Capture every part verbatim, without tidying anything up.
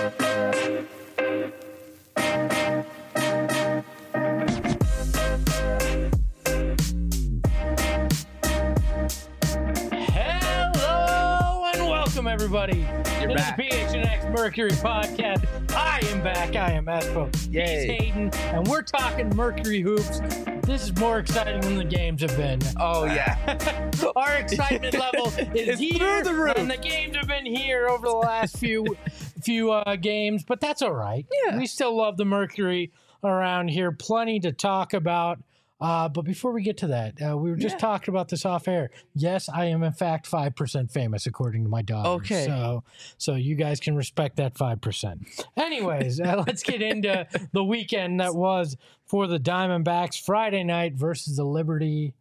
Everybody, You're to back. the P H N X Mercury podcast. I am back. I am Espo. Yay. He's Hayden, and we're talking Mercury hoops. This is more exciting than the games have been. Oh, yeah. Our excitement level is It's here, through the roof. and the games have been here over the last few few uh, games, but that's all right. Yeah. We still love the Mercury around here. Plenty to talk about. Uh, but before we get to that, uh, we were just Yeah. talking about this off air. Yes, I am in fact five percent famous according to my daughter. Okay. So, so you guys can respect that five percent. Anyways, uh, let's get into the weekend that was for the Diamondbacks. Friday night versus the Liberty.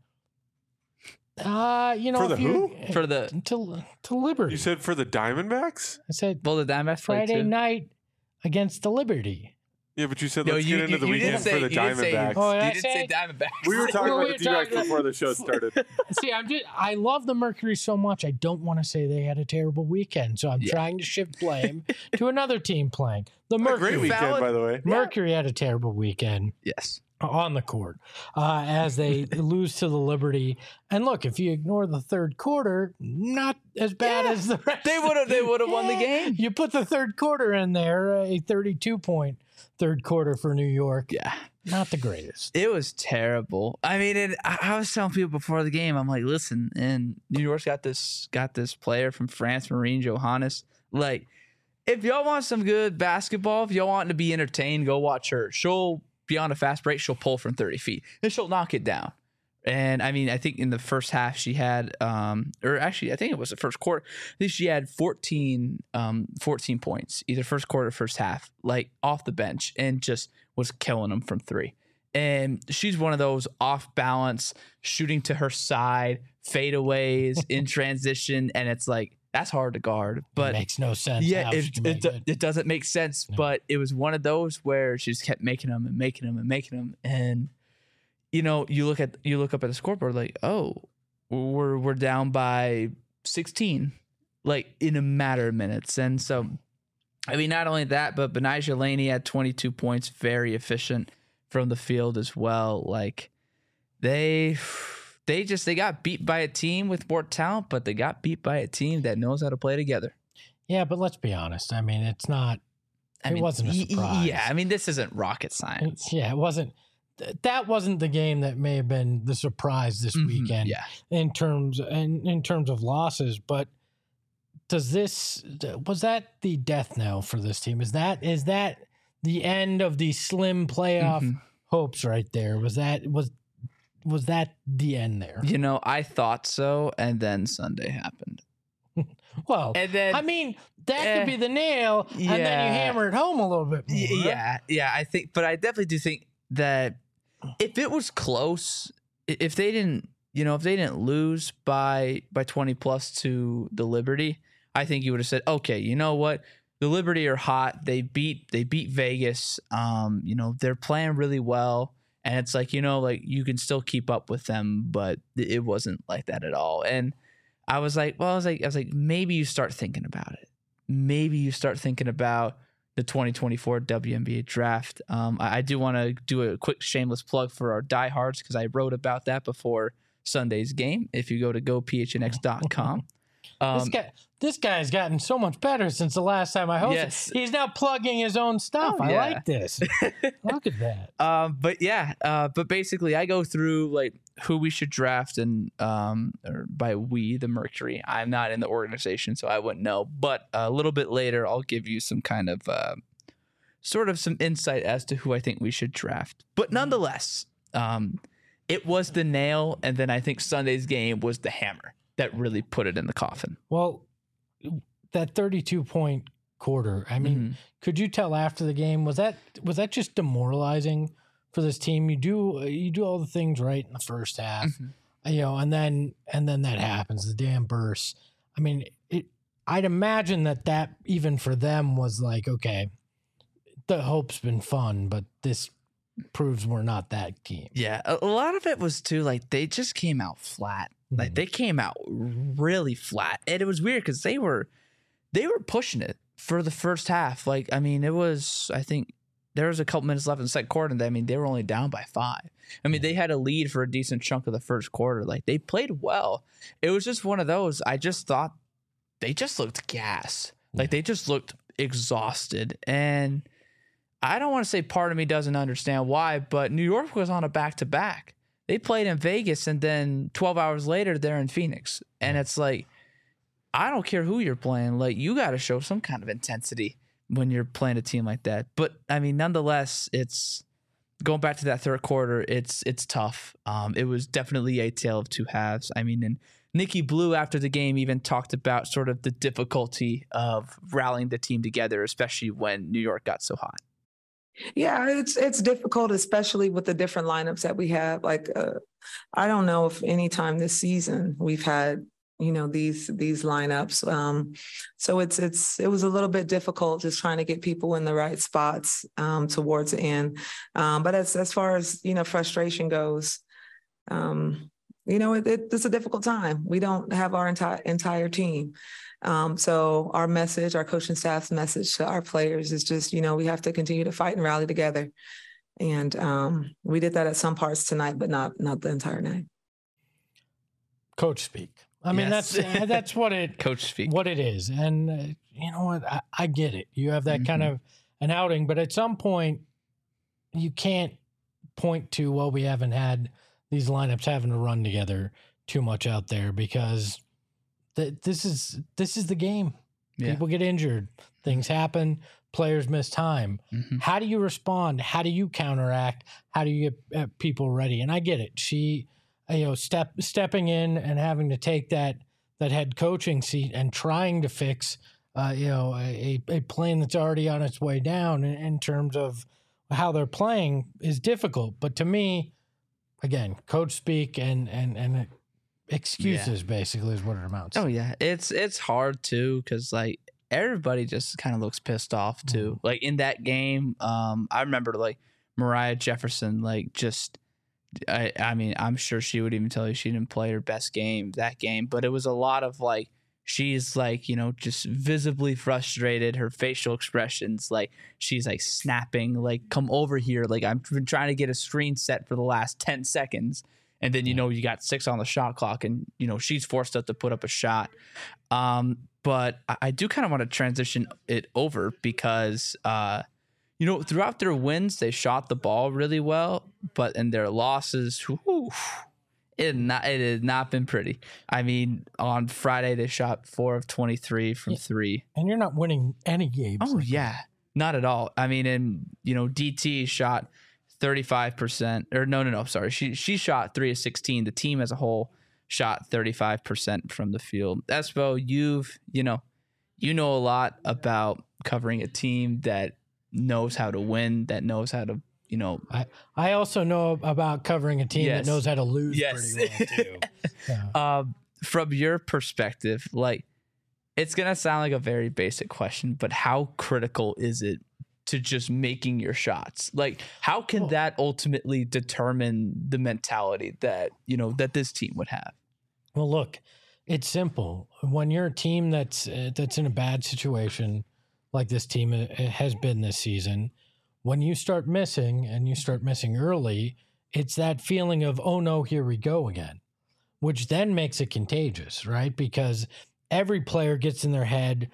Uh, you know, For the if you- who? For the to to Liberty. You said for the Diamondbacks? I said well, the Diamondbacks played Friday too. night against the Liberty. Yeah, but you said No, let's you, get into you, the you weekend didn't say, for the you didn't say, Diamondbacks. Oh, you did I didn't say say it? Diamondbacks. We were talking Well, we about were the D-backs talking- before the show started. See, I'm just I love the Mercury so much. I don't want to say they had a terrible weekend, so I'm Yeah. trying to shift blame to another team playing. The What a Mercury. great weekend, Valid. by the way. Mercury had a terrible weekend Yes. on the court uh, as they lose to the Liberty. And look, if you ignore the third quarter, not as bad Yeah. as the rest. They would have they would have won the Yeah. game. You put the third quarter in there, a thirty-two point third quarter for New York. Yeah. Not the greatest. It was terrible. I mean, it, I, I was telling people before the game, I'm like, listen, and New York's got this got this player from France, Marine Johannes. Like, if y'all want some good basketball, if y'all want to be entertained, go watch her. She'll be on a fast break, she'll pull from thirty feet, and she'll knock it down. And I mean, I think in the first half she had, um, or actually, I think it was the first quarter. I think she had fourteen, um, fourteen points, either first quarter or first half, like off the bench, and just was killing them from three. And she's one of those off balance, shooting to her side, fadeaways in transition, and it's like that's hard to guard. But it makes no sense. yeah, how it she can it, make do- it. it doesn't make sense. No. But it was one of those where she just kept making them and making them and making them, and you know, you look at you look up at the scoreboard like, oh, we're we're down by sixteen, like in a matter of minutes. And so, I mean, not only that, but Benijah Laney had twenty-two points, very efficient from the field as well. Like they they just they got beat by a team with more talent, but they got beat by a team that knows how to play together. Yeah, but let's be honest. I mean, it's not. I It mean, wasn't a y- y- surprise. Yeah, I mean, this isn't rocket science. Yeah, it wasn't. th- That wasn't the game that may have been the surprise this Mhm, weekend. Yeah. in terms in, in terms of losses. But does this was that the death knell for this team? Is that is that the end of the slim playoff Mhm. hopes right there? Was that was was that the end there? You know, I thought so, and then Sunday happened. Well, And then I mean that eh, could be the nail, and then you yeah. hammer it home a little bit more. Y- Yeah, yeah, I think, but I definitely do think that if it was close, i- if they didn't, you know, if they didn't lose by by twenty plus to the Liberty, I think you would have said, okay, you know what, the Liberty are hot. They beat they beat Vegas. Um, you know, they're playing really well, and it's like, you know, like you can still keep up with them, but it wasn't like that at all. And I was like, well, I was like, I was like, maybe you start thinking about it. Maybe you start thinking about the twenty twenty-four W N B A draft. Um, I, I do want to do a quick shameless plug for our diehards because I wrote about that before Sunday's game. If you go to go p h n x dot com. This Um, guy, this guy's gotten so much better since the last time I hosted. Yes. He's now plugging his own stuff. Oh, I yeah. like this. Look at that. Um, but yeah, uh, but basically, I go through like who we should draft, and um, or by we, the Mercury. I'm not in the organization, so I wouldn't know. But a little bit later, I'll give you some kind of uh, sort of some insight as to who I think we should draft. But nonetheless, um, it was the nail, and then I think Sunday's game was the hammer that really put it in the coffin. Well, that thirty-two point quarter. I mean, Mhm. could you tell after the game was that was that just demoralizing for this team? You do you do all the things right in the first half, Mhm. you know, and then and then that happens, the damn burst. I mean, it. I'd imagine that that even for them was like, okay, the hope's been fun, but this proves we're not that team. Yeah, a, a lot of it was too like they just came out flat. Like Mhm. they came out really flat, and it was weird because they were they were pushing it for the first half. Like, I mean, it was, I think there was a couple minutes left in the second quarter. And I mean, they were only down by five. I mean, they had a lead for a decent chunk of the first quarter. Like, they played well. It was just one of those. I just thought they just looked gas. Like, they just looked exhausted. And I don't want to say part of me doesn't understand why, but New York was on a back-to-back. They played in Vegas, and then twelve hours later, they're in Phoenix. And it's like, I don't care who you're playing. Like, you got to show some kind of intensity when you're playing a team like that. But, I mean, nonetheless, it's going back to that third quarter, it's it's tough. Um, it was definitely a tale of two halves. I mean, and Nikki Blue after the game even talked about sort of the difficulty of rallying the team together, especially when New York got so hot. Yeah, it's it's difficult, especially with the different lineups that we have. Like, uh, I don't know if any time this season we've had, you know, these these lineups. Um, so it's it's it was a little bit difficult just trying to get people in the right spots um, towards the end. Um, but as as far as, you know, frustration goes, um, you know, it, it, it's a difficult time. We don't have our entire entire team. Um, so our message, our coaching staff's message to our players is just, you know, we have to continue to fight and rally together. And um, we did that at some parts tonight, but not not the entire night. Coach speak. I mean, Yes. that's that's what it Coach speak. what it is. And uh, you know what? I, I get it. You have that Mhm. kind of an outing, but at some point, you can't point to, well, we haven't had these lineups having to run together too much out there because th- this is this is the game. Yeah. People get injured, things happen, players miss time. Mhm. How do you respond? How do you counteract? How do you get uh, people ready? And I get it. She, uh, you know, step stepping in and having to take that that head coaching seat and trying to fix, uh, you know, a, a plane that's already on its way down in, in terms of how they're playing is difficult. But to me, again, coach speak and and and excuses basically is what it amounts. Oh to. yeah, it's it's hard too because like everybody just kind of looks pissed off too. Mm-hmm. Like in that game, um, I remember like Mariah Jefferson, like just, I I mean, I'm sure she would even tell you she didn't play her best game that game, but it was a lot of like she's like, you know, just visibly frustrated. Her facial expressions, like she's like snapping, like come over here, like I've been trying to get a screen set for the last ten seconds. And then, you know, you got six on the shot clock and, you know, she's forced us to put up a shot. Um, but I, I do kind of want to transition it over because, uh, you know, throughout their wins, they shot the ball really well. But in their losses, whew, it, had not, it has not been pretty. I mean, on Friday, they shot four of twenty-three from Yeah. three. And you're not winning any games. Oh, like that. yeah. Not at all. I mean, and, you know, D T shot thirty-five percent or no, no, no, sorry. She she shot three of sixteen. The team as a whole shot thirty-five percent from the field. Espo, you've, you know, you know a lot about covering a team that knows how to win, that knows how to, you know. I, I also know about covering a team Yes. that knows how to lose Yes. pretty well too. Yeah. Um, from your perspective, like, it's going to sound like a very basic question, but how critical is it to just making your shots? Like, how can Well- that ultimately determine the mentality that, you know, that this team would have? Well, look, it's simple. When you're a team that's uh, that's in a bad situation, like this team uh, has been this season, when you start missing and you start missing early, it's that feeling of, oh no, here we go again, which then makes it contagious, right? Because every player gets in their head,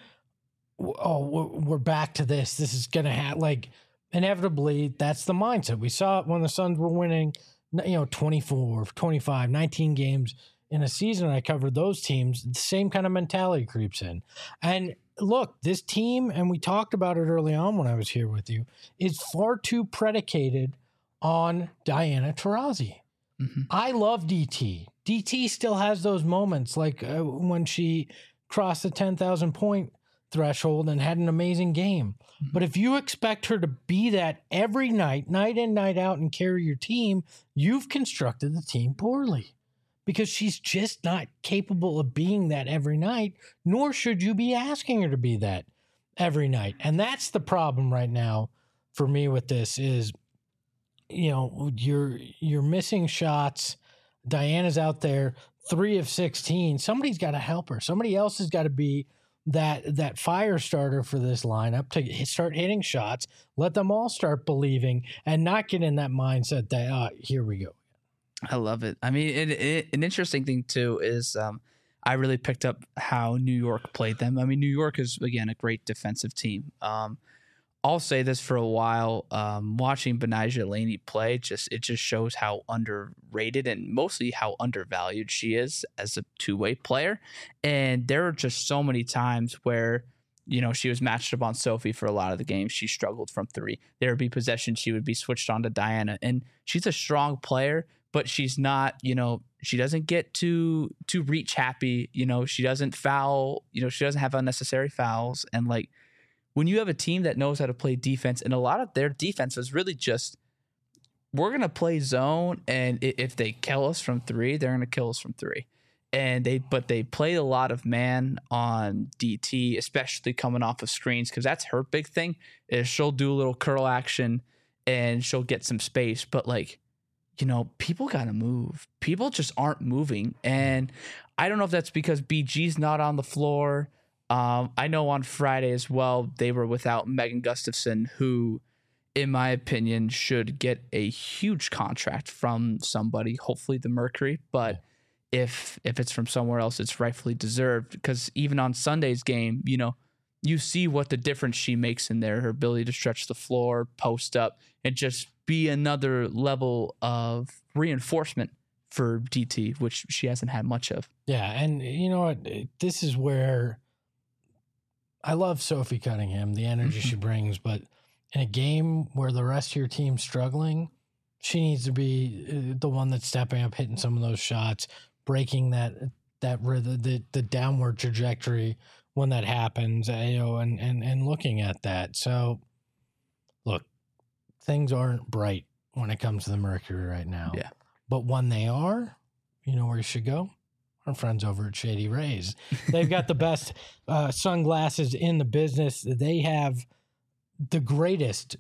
oh, we're- we're back to this. This is going to happen. Like, inevitably, that's the mindset. We saw it when the Suns were winning, you know, twenty-four, twenty-five, nineteen games in a season. I covered those teams. The same kind of mentality creeps in. And look, this team, and we talked about it early on when I was here with you, is far too predicated on Diana Taurasi. Mhm. I love D T. D T still has those moments, like uh, when she crossed the ten thousand point threshold and had an amazing game. Mhm. But if you expect her to be that every night, night in, night out, and carry your team, you've constructed the team poorly because she's just not capable of being that every night, nor should you be asking her to be that every night. And that's the problem right now for me with this is, you know, you're you're missing shots. Diana's out there, three of sixteen. Somebody's got to help her. Somebody else has got to be that that fire starter for this lineup to hit- start hitting shots. Let them all start believing and not get in that mindset that uh, here we go. I love it. I mean, it, it, an interesting thing too is um, I really picked up how New York played them. I mean, New York is again a great defensive team. Um, I'll say this for a while. Um, watching Benijah Laney play, just it just shows how underrated and mostly how undervalued she is as a two-way player. And there are just so many times where, you know, she was matched up on Sophie for a lot of the games. She struggled from three. There would be possessions she would be switched on to Diana, and she's a strong player, but she's not. You know, she doesn't get too too reach happy. You know, she doesn't foul. You know, she doesn't have unnecessary fouls, and like. When you have a team that knows how to play defense, and a lot of their defense is really just, we're going to play zone, and if they kill us from three, they're going to kill us from three. And they, but they played a lot of man on D T, especially coming off of screens, because that's her big thing, is she'll do a little curl action and she'll get some space. But like, you know, people got to move. People just aren't moving. And I don't know if that's because B G's not on the floor. Um, I know on Friday as well, they were without Megan Gustafson, who, in my opinion, should get a huge contract from somebody, hopefully the Mercury. But if if it's from somewhere else, it's rightfully deserved, because even on Sunday's game, you know, you see what the difference she makes in there, her ability to stretch the floor, post up, and just be another level of reinforcement for D T, which she hasn't had much of. Yeah, and you know what? This is where I love Sophie Cunningham, the energy she brings, but in a game where the rest of your team's struggling, she needs to be the one that's stepping up, hitting some of those shots, breaking that that the the downward trajectory when that happens, you know, and and and looking at that. So, look, things aren't bright when it comes to the Mercury right now. Yeah, but when they are, you know where you should go. Our friends over at Shady Rays. They've got the best uh, sunglasses in the business. They have the greatest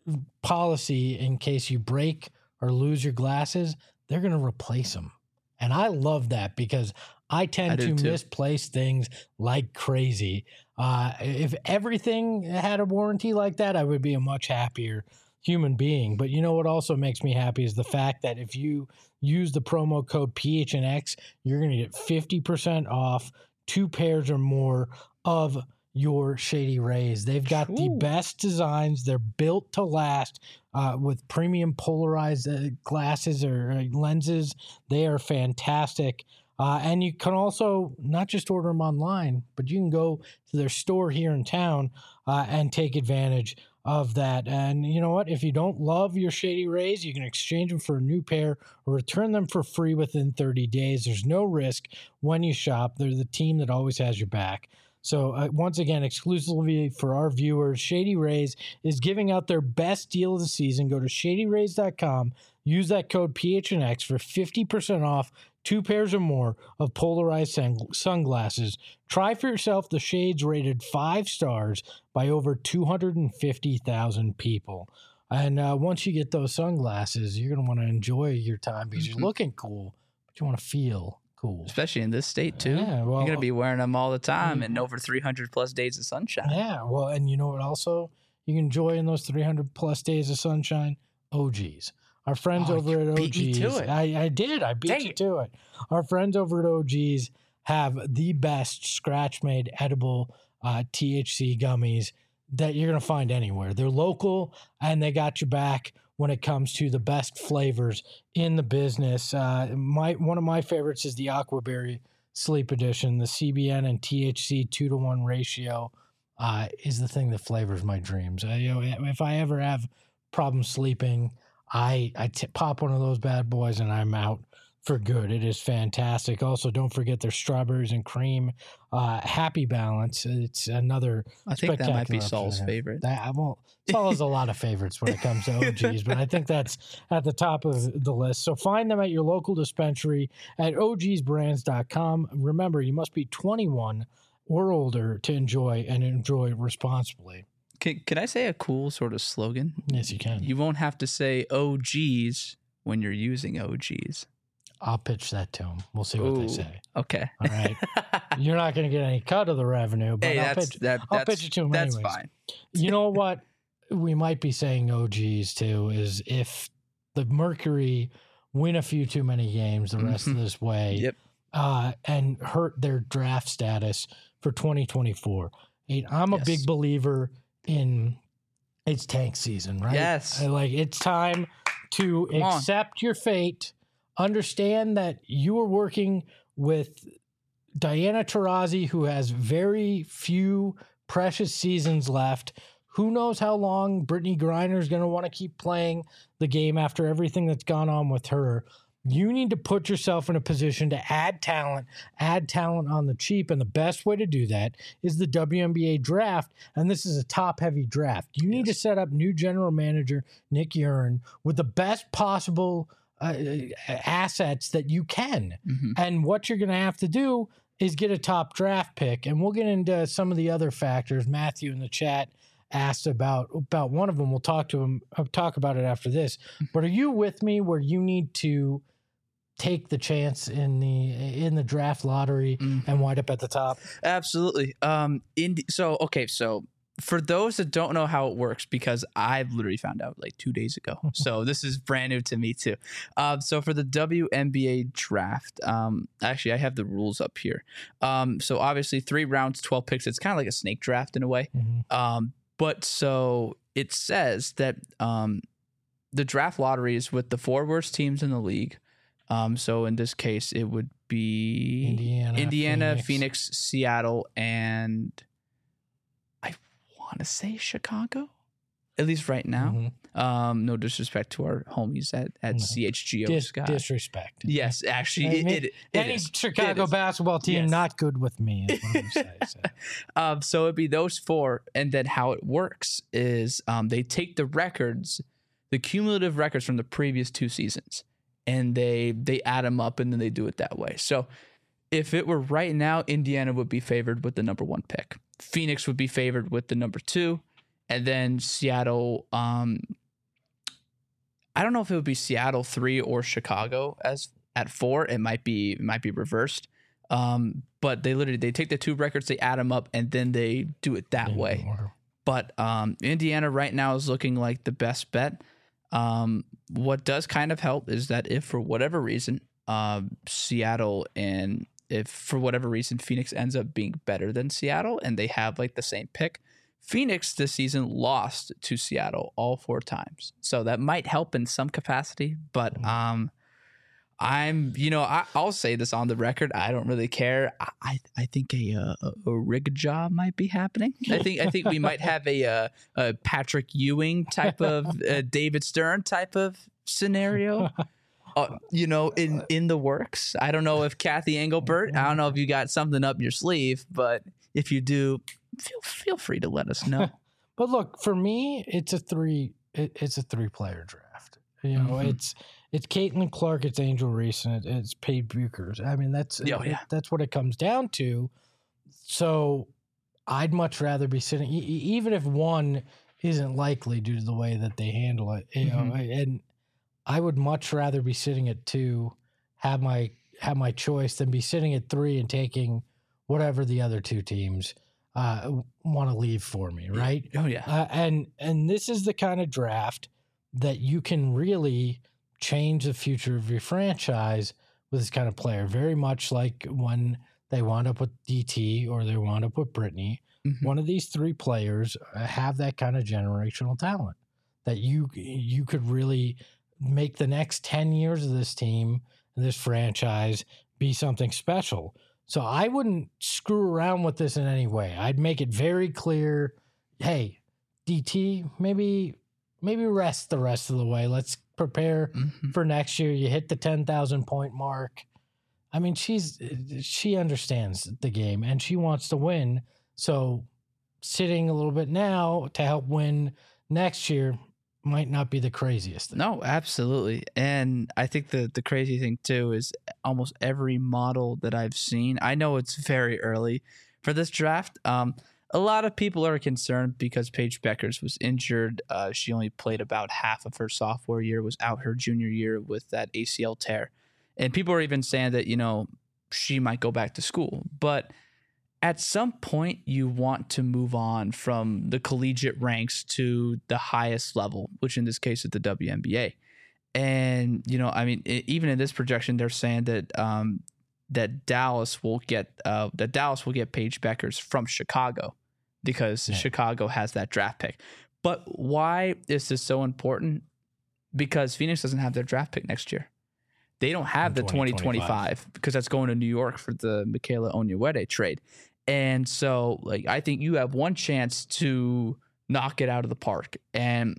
policy in case you break or lose your glasses. They're going to replace them. And I love that because I tend I to too. misplace things like crazy. Uh, if everything had a warranty like that, I would be a much happier human being. But you know what also makes me happy is the fact that if you use the promo code P H N X, you're going to get fifty percent off two pairs or more of your Shady Rays. They've got Ooh. the best designs. They're built to last uh, with premium polarized uh, glasses or uh, lenses. They are fantastic. Uh, and you can also not just order them online, but you can go to their store here in town uh, and take advantage of that. And you know what? If you don't love your Shady Rays, you can exchange them for a new pair or return them for free within thirty days. There's no risk when you shop. They're the team that always has your back. So uh, once again, exclusively for our viewers, Shady Rays is giving out their best deal of the season. Go to shady rays dot com. Use that code P H N X for fifty percent off two pairs or more of polarized sun- sunglasses. Try for yourself the shades rated five stars by over two hundred fifty thousand people. And uh, once you get those sunglasses, you're going to want to enjoy your time because Mm-hmm. you're looking cool, but you want to feel cool. Especially in this state, too. Yeah, well, you're going to be wearing them all the time and over three hundred plus days of sunshine. Yeah, well, and you know what also you can enjoy in those three hundred plus days of sunshine? O Gs. Our friends Oh, over you at O Gs. beat me to it. I, I did. I beat Dang you it. to it. Our friends over at O Gs have the best scratch-made edible uh, T H C gummies that you're going to find anywhere. They're local, and they got your back when it comes to the best flavors in the business. Uh, my One of my favorites is the Aquaberry Sleep Edition. The C B N and T H C two to one ratio uh, is the thing that flavors my dreams. I, you know, if I ever have problems sleeping, I, I t- pop one of those bad boys and I'm out for good. It is fantastic. Also, don't forget their strawberries and cream uh, Happy Balance. It's another I think that might be spectacular Saul's option. favorite. That, I won't. Saul has a lot of favorites when it comes to O Gs, but I think that's at the top of the list. So find them at your local dispensary at O Gs brands dot com. Remember, you must be twenty-one or older to enjoy and enjoy responsibly. Can, can I say a cool sort of slogan? Yes, you can. You won't have to say O Gs when you're using O Gs. I'll pitch that to them. We'll see what they Ooh, say. Okay. All right. You're not going to get any cut of the revenue, but Hey, I'll that's pitch. that. I'll that's, pitch it to 'em That's anyways. fine. You know what? We might be saying O Gs too. Is if the Mercury win a few too many games the rest Mhm. of this way, Yep. uh, and hurt their draft status for twenty twenty-four. And I'm a Yes. big believer in it's tank season, right? Yes. I like it's time to Come on. accept your fate. Understand that you are working with Diana Taurasi, who has very few precious seasons left. Who knows how long Brittany Griner is going to want to keep playing the game after everything that's gone on with her. You need to put yourself in a position to add talent, add talent on the cheap. And the best way to do that is the W N B A draft. And this is a top heavy draft. You need Yes. to set up new general manager Nick Urin with the best possible uh, assets that you can. Mhm. And what you're going to have to do is get a top draft pick. And we'll get into some of the other factors. Matthew in the chat asked about about one of them. We'll talk to him. I'll talk about it after this. But are you with me where you need to take the chance in the in the draft lottery Mhm. and wind up at the top? Absolutely. Um. In so okay. So for those that don't know how it works, because I've literally found out like two days ago, so this is brand new to me too. Um. So for the W N B A draft, um, actually I have the rules up here. Um. So obviously three rounds, twelve picks. It's kind of like a snake draft in a way. Mhm. Um. But so it says that um, the draft lottery is with the four worst teams in the league. Um, so in this case, it would be Indiana, Indiana, Phoenix. Phoenix, Seattle, and I want to say Chicago, at least right now. Mhm. Um, no disrespect to our homies at, at No. C H G O Dis- Sky. disrespect. Yes, actually, I it, mean, it, it Any is. Chicago It is. basketball team Yes. not good with me is what I'm saying. So. Um, so it'd be those four, and then how it works is um, they take the records, the cumulative records from the previous two seasons, and they they add them up, and then they do it that way. So if it were right now, Indiana would be favored with the number one pick. Phoenix would be favored with the number two, and then Seattle. Um, I don't know if it would be Seattle three or Chicago as at four. It might be it might be reversed. Um, but they literally they take the two records, they add them up, and then they do it that Yeah, way. or- But um, Indiana right now is looking like the best bet. Um, what does kind of help is that if for whatever reason, um, Seattle and if for whatever reason Phoenix ends up being better than Seattle and they have like the same pick, Phoenix this season lost to Seattle all four times. So that might help in some capacity, but um, I'm, you know, I, I'll say this on the record. I don't really care. I, I, I think a, uh, a, a rig job might be happening. I think, I think we might have a, uh, a Patrick Ewing type of uh, David Stern type of scenario. Uh, you know, in, in the works. I don't know if Kathy Engelbert, I don't know if you got something up your sleeve, but if you do, feel feel free to let us know. But look, for me, it's a three. It, it's a three-player draft. You know, Mhm. it's it's Caitlin Clark, it's Angel Reese, and it, it's Paige Buchers. I mean, that's Oh, yeah. that's what it comes down to. So, I'd much rather be sitting, e- e- even if one isn't likely due to the way that they handle it. You know, Mhm. and I would much rather be sitting at two, have my have my choice, than be sitting at three and taking whatever the other two teams uh, want to leave for me, right? Oh yeah. Uh, and and this is the kind of draft that you can really change the future of your franchise with this kind of player. Very much like when they wound up with D T or they wound up with Brittany. Mhm. One of these three players have that kind of generational talent that you you could really make the next ten years of this team, this franchise, be something special. So I wouldn't screw around with this in any way. I'd make it very clear, hey, D T, maybe maybe rest the rest of the way. Let's prepare Mhm. for next year. You hit the ten thousand point mark. I mean, she's she understands the game and she wants to win. So sitting a little bit now to help win next year might not be the craziest thing. No, absolutely. And I think the the crazy thing too is almost every model that I've seen, I know it's very early for this draft. Um, a lot of people are concerned because Paige Beckers was injured. Uh, she only played about half of her sophomore year, was out her junior year with that A C L tear. And people are even saying that, you know, she might go back to school. But at some point, you want to move on from the collegiate ranks to the highest level, which in this case is the W N B A. And, you know, I mean, it, even in this projection, they're saying that um, that Dallas will get uh, that Dallas will get Paige Beckers from Chicago because yeah. Chicago has that draft pick. But why is this so important? Because Phoenix doesn't have their draft pick next year. They don't have the twenty twenty-five because that's going to New York for the Michaela Onyenwere trade. And so, like, I think you have one chance to knock it out of the park. And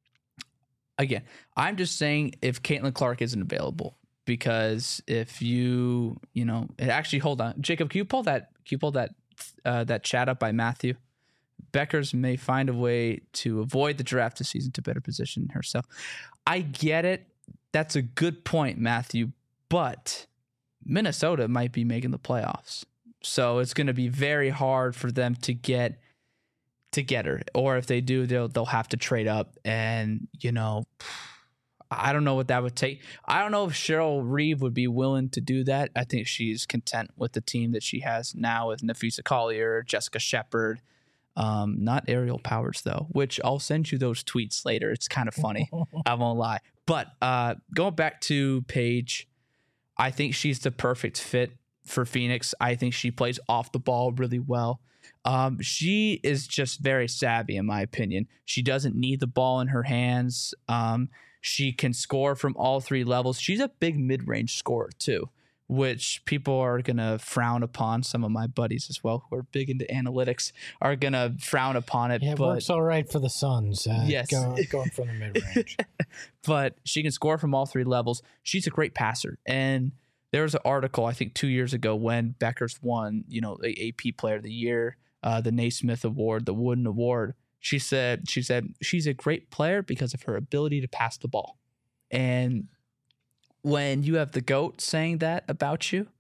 again, I'm just saying if Caitlin Clark isn't available, because if you, you know, actually, hold on, Jacob, can you pull that, can you pull that, uh, that chat up by Matthew? Beckers may find a way to avoid the draft this season to better position herself. I get it. That's a good point, Matthew, but Minnesota might be making the playoffs. So it's going to be very hard for them to get to get her. Or if they do, they'll they'll have to trade up. And, you know, I don't know what that would take. I don't know if Cheryl Reeve would be willing to do that. I think she's content with the team that she has now with Nafisa Collier, Jessica Shepard. Um, not Aerial Powers, though, which I'll send you those tweets later. It's kind of funny. I won't lie. But uh, going back to Paige, I think she's the perfect fit for Phoenix. I think she plays off the ball really well. Um, she is just very savvy, in my opinion. She doesn't need the ball in her hands. Um, she can score from all three levels. She's a big mid-range scorer, too, which people are going to frown upon. Some of my buddies as well, who are big into analytics, are going to frown upon it. Yeah, it but, works all right for the Suns. Uh, yes. Go, going from the mid-range. But she can score from all three levels. She's a great passer. And there was an article, I think, two years ago when Beckers won, you know, the A P Player of the Year, uh, the Naismith Award, the Wooden Award. She said, she said she's a great player because of her ability to pass the ball. And when you have the GOAT saying that about you,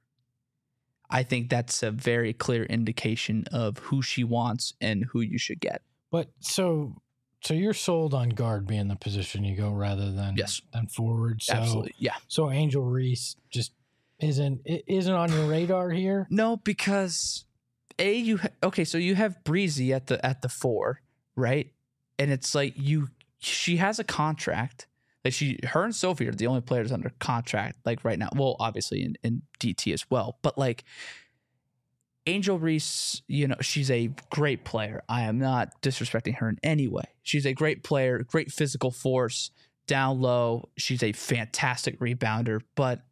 I think that's a very clear indication of who she wants and who you should get. But so so you're sold on guard being the position you go rather than yes. than forward. So, absolutely, yeah. So Angel Reese just isn't isn't on your radar here? No, because a you ha- okay, so you have Breezy at the at the four, right? And it's like you she has a contract. Like she, her and Sophie are the only players under contract, like right now. Well, obviously in, in D T as well, but like Angel Reese, you know, she's a great player. I am not disrespecting her in any way. She's a great player, great physical force, down low. She's a fantastic rebounder, but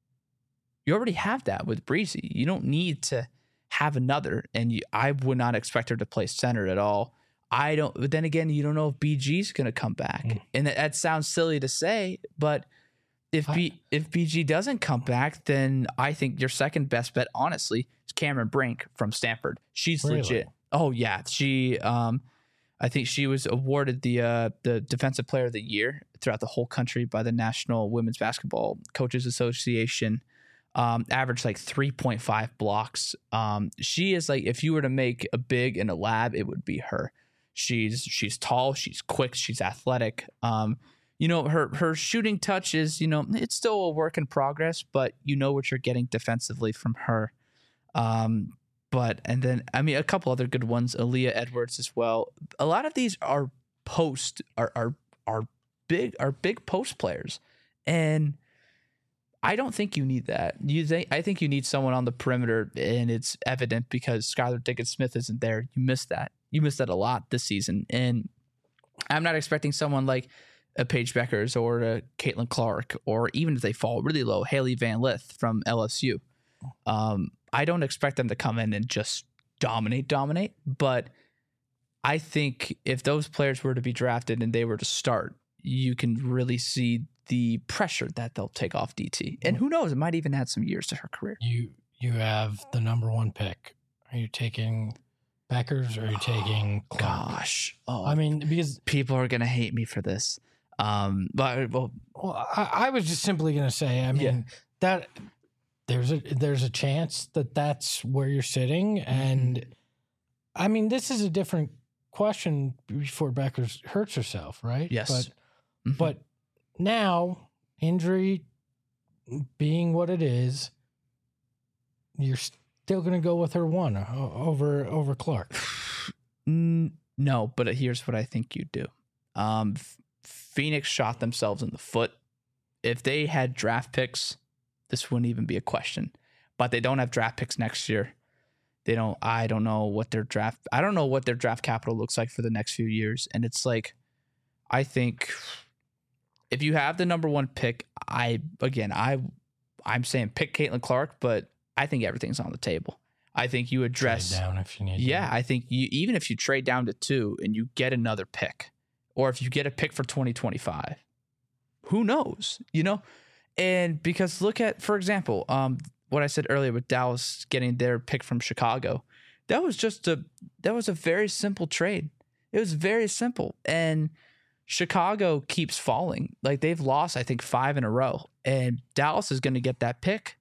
you already have that with Breezy. You don't need to have another, and you, I would not expect her to play center at all. I don't, but then again, you don't know if B G's going to come back. Mm. And that, that sounds silly to say, but if B, if B G doesn't come back, then I think your second best bet, honestly, is Cameron Brink from Stanford. She's really? legit. Oh yeah. She, um, I think she was awarded the, uh, the defensive player of the year throughout the whole country by the National Women's Basketball Coaches Association. Um, averaged like three point five blocks. Um, she is like, if you were to make a big in a lab, it would be her. She's she's tall, she's quick, she's athletic. Um, you know, her her shooting touch is, you know, it's still a work in progress, but you know what you're getting defensively from her. Um, but and then I mean a couple other good ones, Aaliyah Edwards as well. A lot of these are post are are are big are big post players, and I don't think you need that. You think I think you need someone on the perimeter, and it's evident because Skylar Diggins-Smith isn't there. You missed that. You missed that a lot this season, and I'm not expecting someone like a Paige Beckers or a Caitlin Clark, or even if they fall really low, Haley Van Lith from L S U. Um, I don't expect them to come in and just dominate, dominate. But I think if those players were to be drafted and they were to start, you can really see the pressure that they'll take off D T. And who knows, it might even add some years to her career. You you have the number one pick. Are you taking Beckers or are you taking Clark? Gosh. Oh, I mean, because people are going to hate me for this. Um, but well, well I, I was just simply going to say, I mean, yeah. that there's a there's a chance that that's where you're sitting. And mm-hmm. I mean, this is a different question before Beckers hurts herself, right? Yes. But, mm-hmm. but now injury, being what it is, you're still going to go with her one o- over over Clark. Mm, no, but here's what I think you do. Um, F- Phoenix shot themselves in the foot. If they had draft picks, this wouldn't even be a question. But they don't have draft picks next year. They don't. I don't know what their draft. I don't know what their draft capital looks like for the next few years. And it's like, I think if you have the number one pick, I again, I, I'm saying pick Caitlin Clark, but I think everything's on the table. I think you address Trade down if you need. Yeah, to. I think you even if you trade down to two and you get another pick, or if you get a pick for twenty twenty-five, who knows? You know, and because look at, for example, um, what I said earlier with Dallas getting their pick from Chicago, that was just a that was a very simple trade. It was very simple, and Chicago keeps falling. Like they've lost, I think, five in a row, and Dallas is going to get that pick,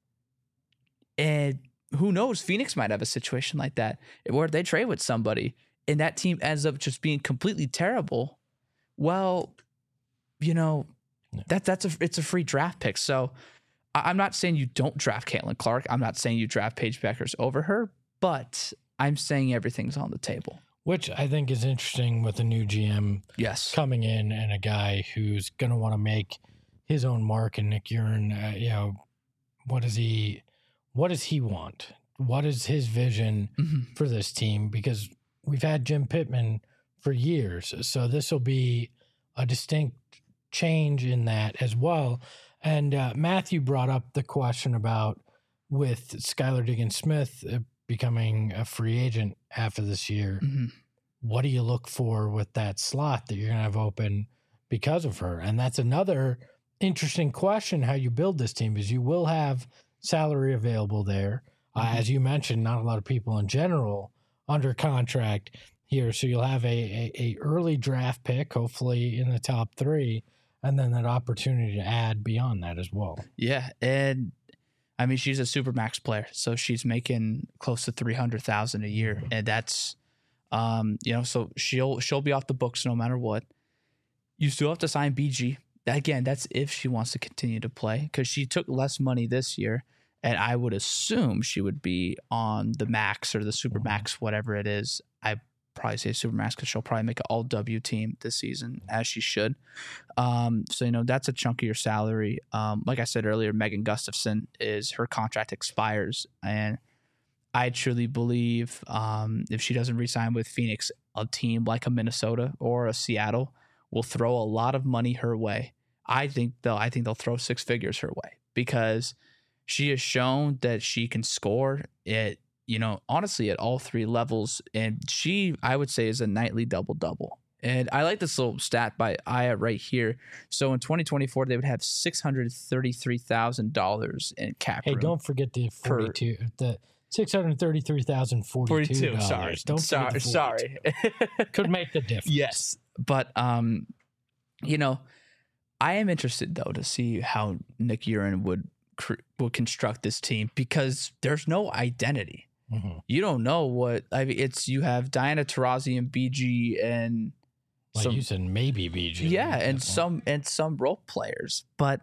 and who knows? Phoenix might have a situation like that where they trade with somebody and that team ends up just being completely terrible. Well, you know, that that's a it's a free draft pick. So I, I'm not saying you don't draft Caitlin Clark. I'm not saying you draft Paige Beckers over her, but I'm saying everything's on the table. Which I think is interesting with a new G M Yes. coming in and a guy who's going to want to make his own mark. And Nick Uren, uh, you know, what does he, what does he want? What is his vision Mm-hmm. for this team? Because we've had Jim Pittman for years. So this will be a distinct change in that as well. And uh, Matthew brought up the question about with Skylar Diggins-Smith uh, becoming a free agent after this year. Mm-hmm. What do you look for with that slot that you're going to have open because of her? And that's another interesting question, how you build this team, is you will have salary available there. Mm-hmm. Uh, as you mentioned, not a lot of people in general under contract here. So you'll have a, a, a early draft pick, hopefully in the top three, and then that opportunity to add beyond that as well. Yeah. And I mean, she's a super max player, so she's making close to three hundred thousand a year. And that's, um, you know, so she'll, she'll be off the books no matter what. You still have to sign B G. Again, that's if she wants to continue to play, because she took less money this year. And I would assume she would be on the max or the super max, whatever it is. I probably say super max because she'll probably make an all W team this season, as she should. Um, so, you know, that's a chunk of your salary. Um, like I said earlier, Megan Gustafson is her contract expires. And I truly believe um, if she doesn't re-sign with Phoenix, a team like a Minnesota or a Seattle will throw a lot of money her way. I think they'll, I think they'll throw six figures her way because she has shown that she can score at, you know, honestly at all three levels. And she, I would say, is a nightly double-double. And I like this little stat by Aya right here. So in twenty twenty-four, they would have six hundred thirty-three thousand dollars in cap Hey, room. don't forget the forty-two, the six hundred thirty-three thousand forty-two. forty-two, sorry. Don't sorry, sorry. Could make the difference. Yes. But, um, you know, I am interested, though, to see how Nick Uren would will construct this team, because there's no identity. Mm-hmm. You don't know what I mean. It's you have Diana Taurasi and B G and Like some, you said, maybe B G. yeah, and some and some role players. But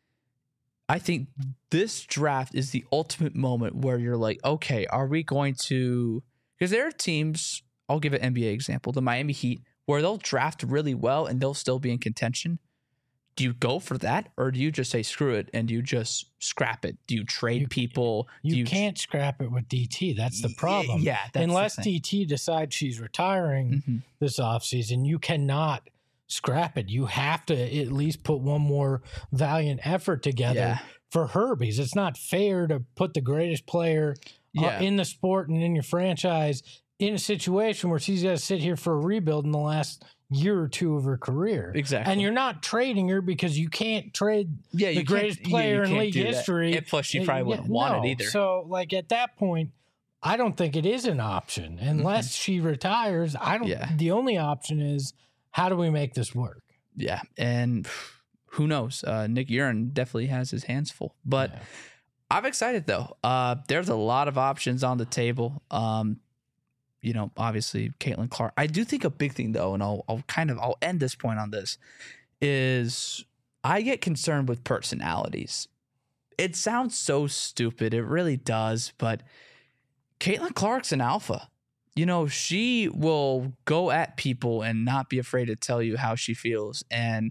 I think this draft is the ultimate moment where you're like, okay, are we going to? Because there are teams. I'll give an N B A example, the Miami Heat, where they'll draft really well and they'll still be in contention. Do you go for that, or do you just say screw it and you just scrap it? Do you trade You- people? You, do you can't scrap it with D T. That's the problem. Yeah, that's unless the thing. D T decides she's retiring Mhm. this offseason, you cannot scrap it. You have to at least put one more valiant effort together Yeah. for her, because it's not fair to put the greatest player Yeah. uh, in the sport and in your franchise in a situation where she's got to sit here for a rebuild in the last year or two of her career. Exactly. And you're not trading her because you can't trade Yeah, the you can't- greatest yeah, you player in can't league do that. history. And plus, she Uh, probably yeah, wouldn't want no. it either. So, like at that point, I don't think it is an option unless she retires. I don't. Mm-hmm. Yeah. The only option is how do we make this work? Yeah, and who knows? Uh, Nick Uren definitely has his hands full. But Yeah. I'm excited though. Uh, there's a lot of options on the table. Um, you know, obviously Caitlin Clark. I do think a big thing though, and I'll I'll kind of I'll end this point on this, is I get concerned with personalities. it sounds so stupid. It really does. But Caitlin Clark's an alpha. You know, she will go at people and not be afraid to tell you how she feels. And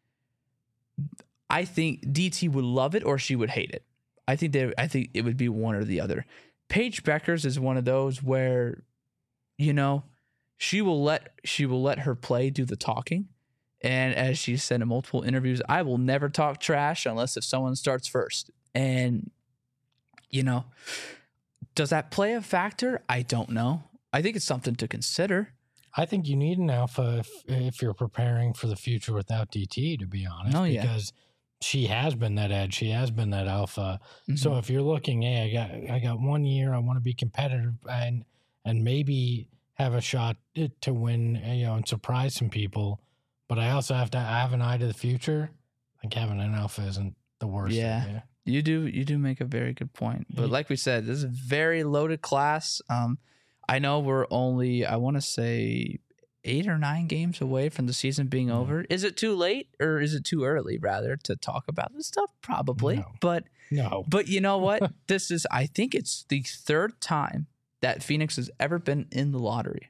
I think D T would love it or she would hate it. I think they, I think it would be one or the other. Paige Beckers is one of those where, you know, she will let she will let her play do the talking. And as she said in multiple interviews, I will never talk trash unless if someone starts first. And, you know, does that play a factor? I don't know. I think it's something to consider. I think you need an alpha if, if you're preparing for the future without D T, to be honest. Oh, yeah. Because she has been that edge. She has been that alpha. Mm-hmm. So if you're looking, hey, I got I got one year, I want to be competitive and and maybe have a shot to win, you know, and surprise some people. But I also have to have an eye to the future. Like having an alpha isn't the worst. Yeah. Idea. You do you do make a very good point. But like we said, this is a very loaded class. Um, I know we're only, I want to say, eight or nine games away from the season being Yeah. over. Is it too late or is it too early, rather, to talk about this stuff? Probably. No. But No. but you know what? This is, I think it's the third time that Phoenix has ever been in the lottery.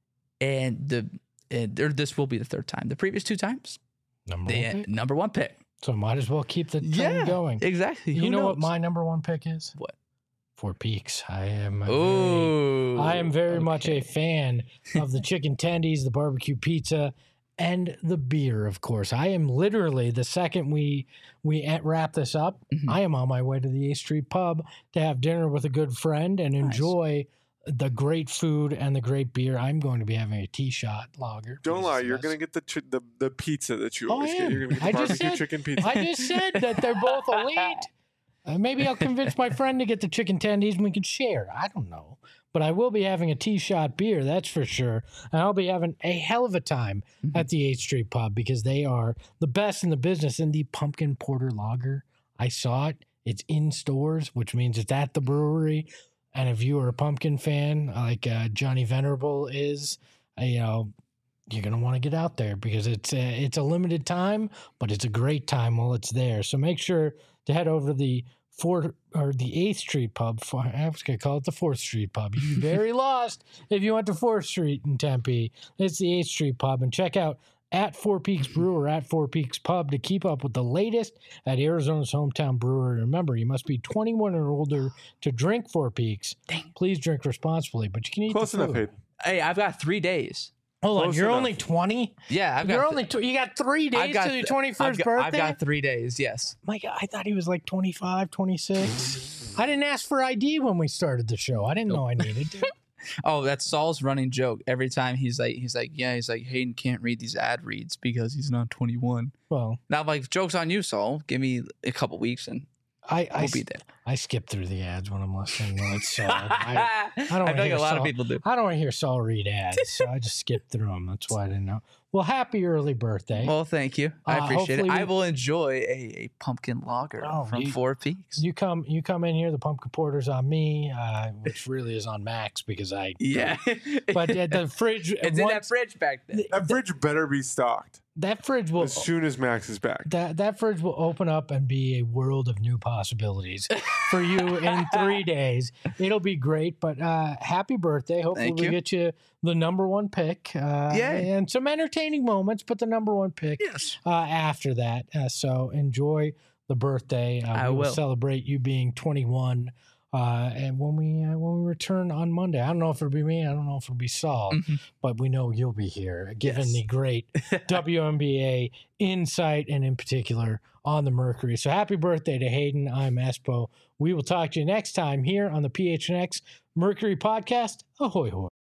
And the and or this will be the third time. The previous two times, Number they one pick. number one pick. So might as well keep the trend Yeah, going. Exactly. You Who know what knows? my number one pick is? What? Fort Peaks. I am a very, Ooh. I am very much a okay. fan of the chicken tendies, the barbecue pizza, and the beer, of course. I am literally, the second we we at- wrap this up, Mhm. I am on my way to the eighth Street Pub to have dinner with a good friend and Nice. enjoy the great food and the great beer. I'm going to be having a T-shot lager. Don't because lie, it's you're the gonna get the ch- the the pizza that you Oh, always I get. am. You're gonna get the I just barbecue said- chicken pizza. I just said that they're both elite. Uh, maybe I'll convince my friend to get the chicken tendies and we can share. I don't know. But I will be having a T-shot beer, that's for sure. And I'll be having a hell of a time Mhm. at the eighth Street Pub because they are the best in the business. And the pumpkin porter lager, I saw it. It's in stores, which means it's at the brewery. And if you are a pumpkin fan, like uh, Johnny Venerable is, uh, you know, you're gonna want to get out there because it's a, it's a limited time, but it's a great time while it's there. So make sure to head over to the fourth or the eighth Street Pub. For, I was gonna call it the fourth Street Pub. You'd be very lost if you went to fourth Street in Tempe. It's the eighth Street Pub, and check out at Four Peaks Brew or at Four Peaks Pub to keep up with the latest at Arizona's hometown brewery. Remember, you must be twenty-one or older to drink Four Peaks. Dang. Please drink responsibly, but you can eat Close the enough, food. Hayden. Hey, I've got three days. Hold on, Close you're enough. only twenty. Yeah, I've got You're th- only tw- you got three days I've got to your th- twenty-first I've got, birthday. I've got three days. Yes. My God, I thought he was like twenty-five, twenty-six. I didn't ask for I D when we started the show. I didn't know I needed to. Oh, that's Saul's running joke. Every time he's like, he's like, yeah, he's like, Hayden can't read these ad reads because he's not twenty-one. Well, Now, I'm like, joke's on you, Saul. Give me a couple weeks and I I, we'll be there. I skip through the ads when I'm listening to it. So I, I, don't feel wanna like hear a lot Saul. of people do. I don't want to hear Saul read ads, so I just skip through them. That's why I didn't know. Well, happy early birthday. Well, thank you. I Uh, appreciate it. hopefully I we- will enjoy a, a pumpkin lager Oh, from you- Four Peaks. You come, you come in here. The pumpkin porter's on me, uh, which really is on Max because I. Yeah. But at the fridge, it's in that once- fridge back there. That fridge better be stocked that fridge will as soon as Max is back. that that fridge will open up and be a world of new possibilities for you in three days. It'll be great. But uh, happy birthday! Hopefully Thank we you. get you the number one pick. Uh, Yay. and some entertaining moments, but the number one pick Yes. uh, after that. Uh, so enjoy the birthday. Uh, I we will will. celebrate you being twenty-one. Uh, and when we uh, when we return on Monday, I don't know if it'll be me, I don't know if it'll be Saul, Mhm. but we know you'll be here, given Yes. the great W N B A insight and in particular on the Mercury. So happy birthday to Hayden. I'm Espo. We will talk to you next time here on the P H N X Mercury Podcast. Ahoy hoy.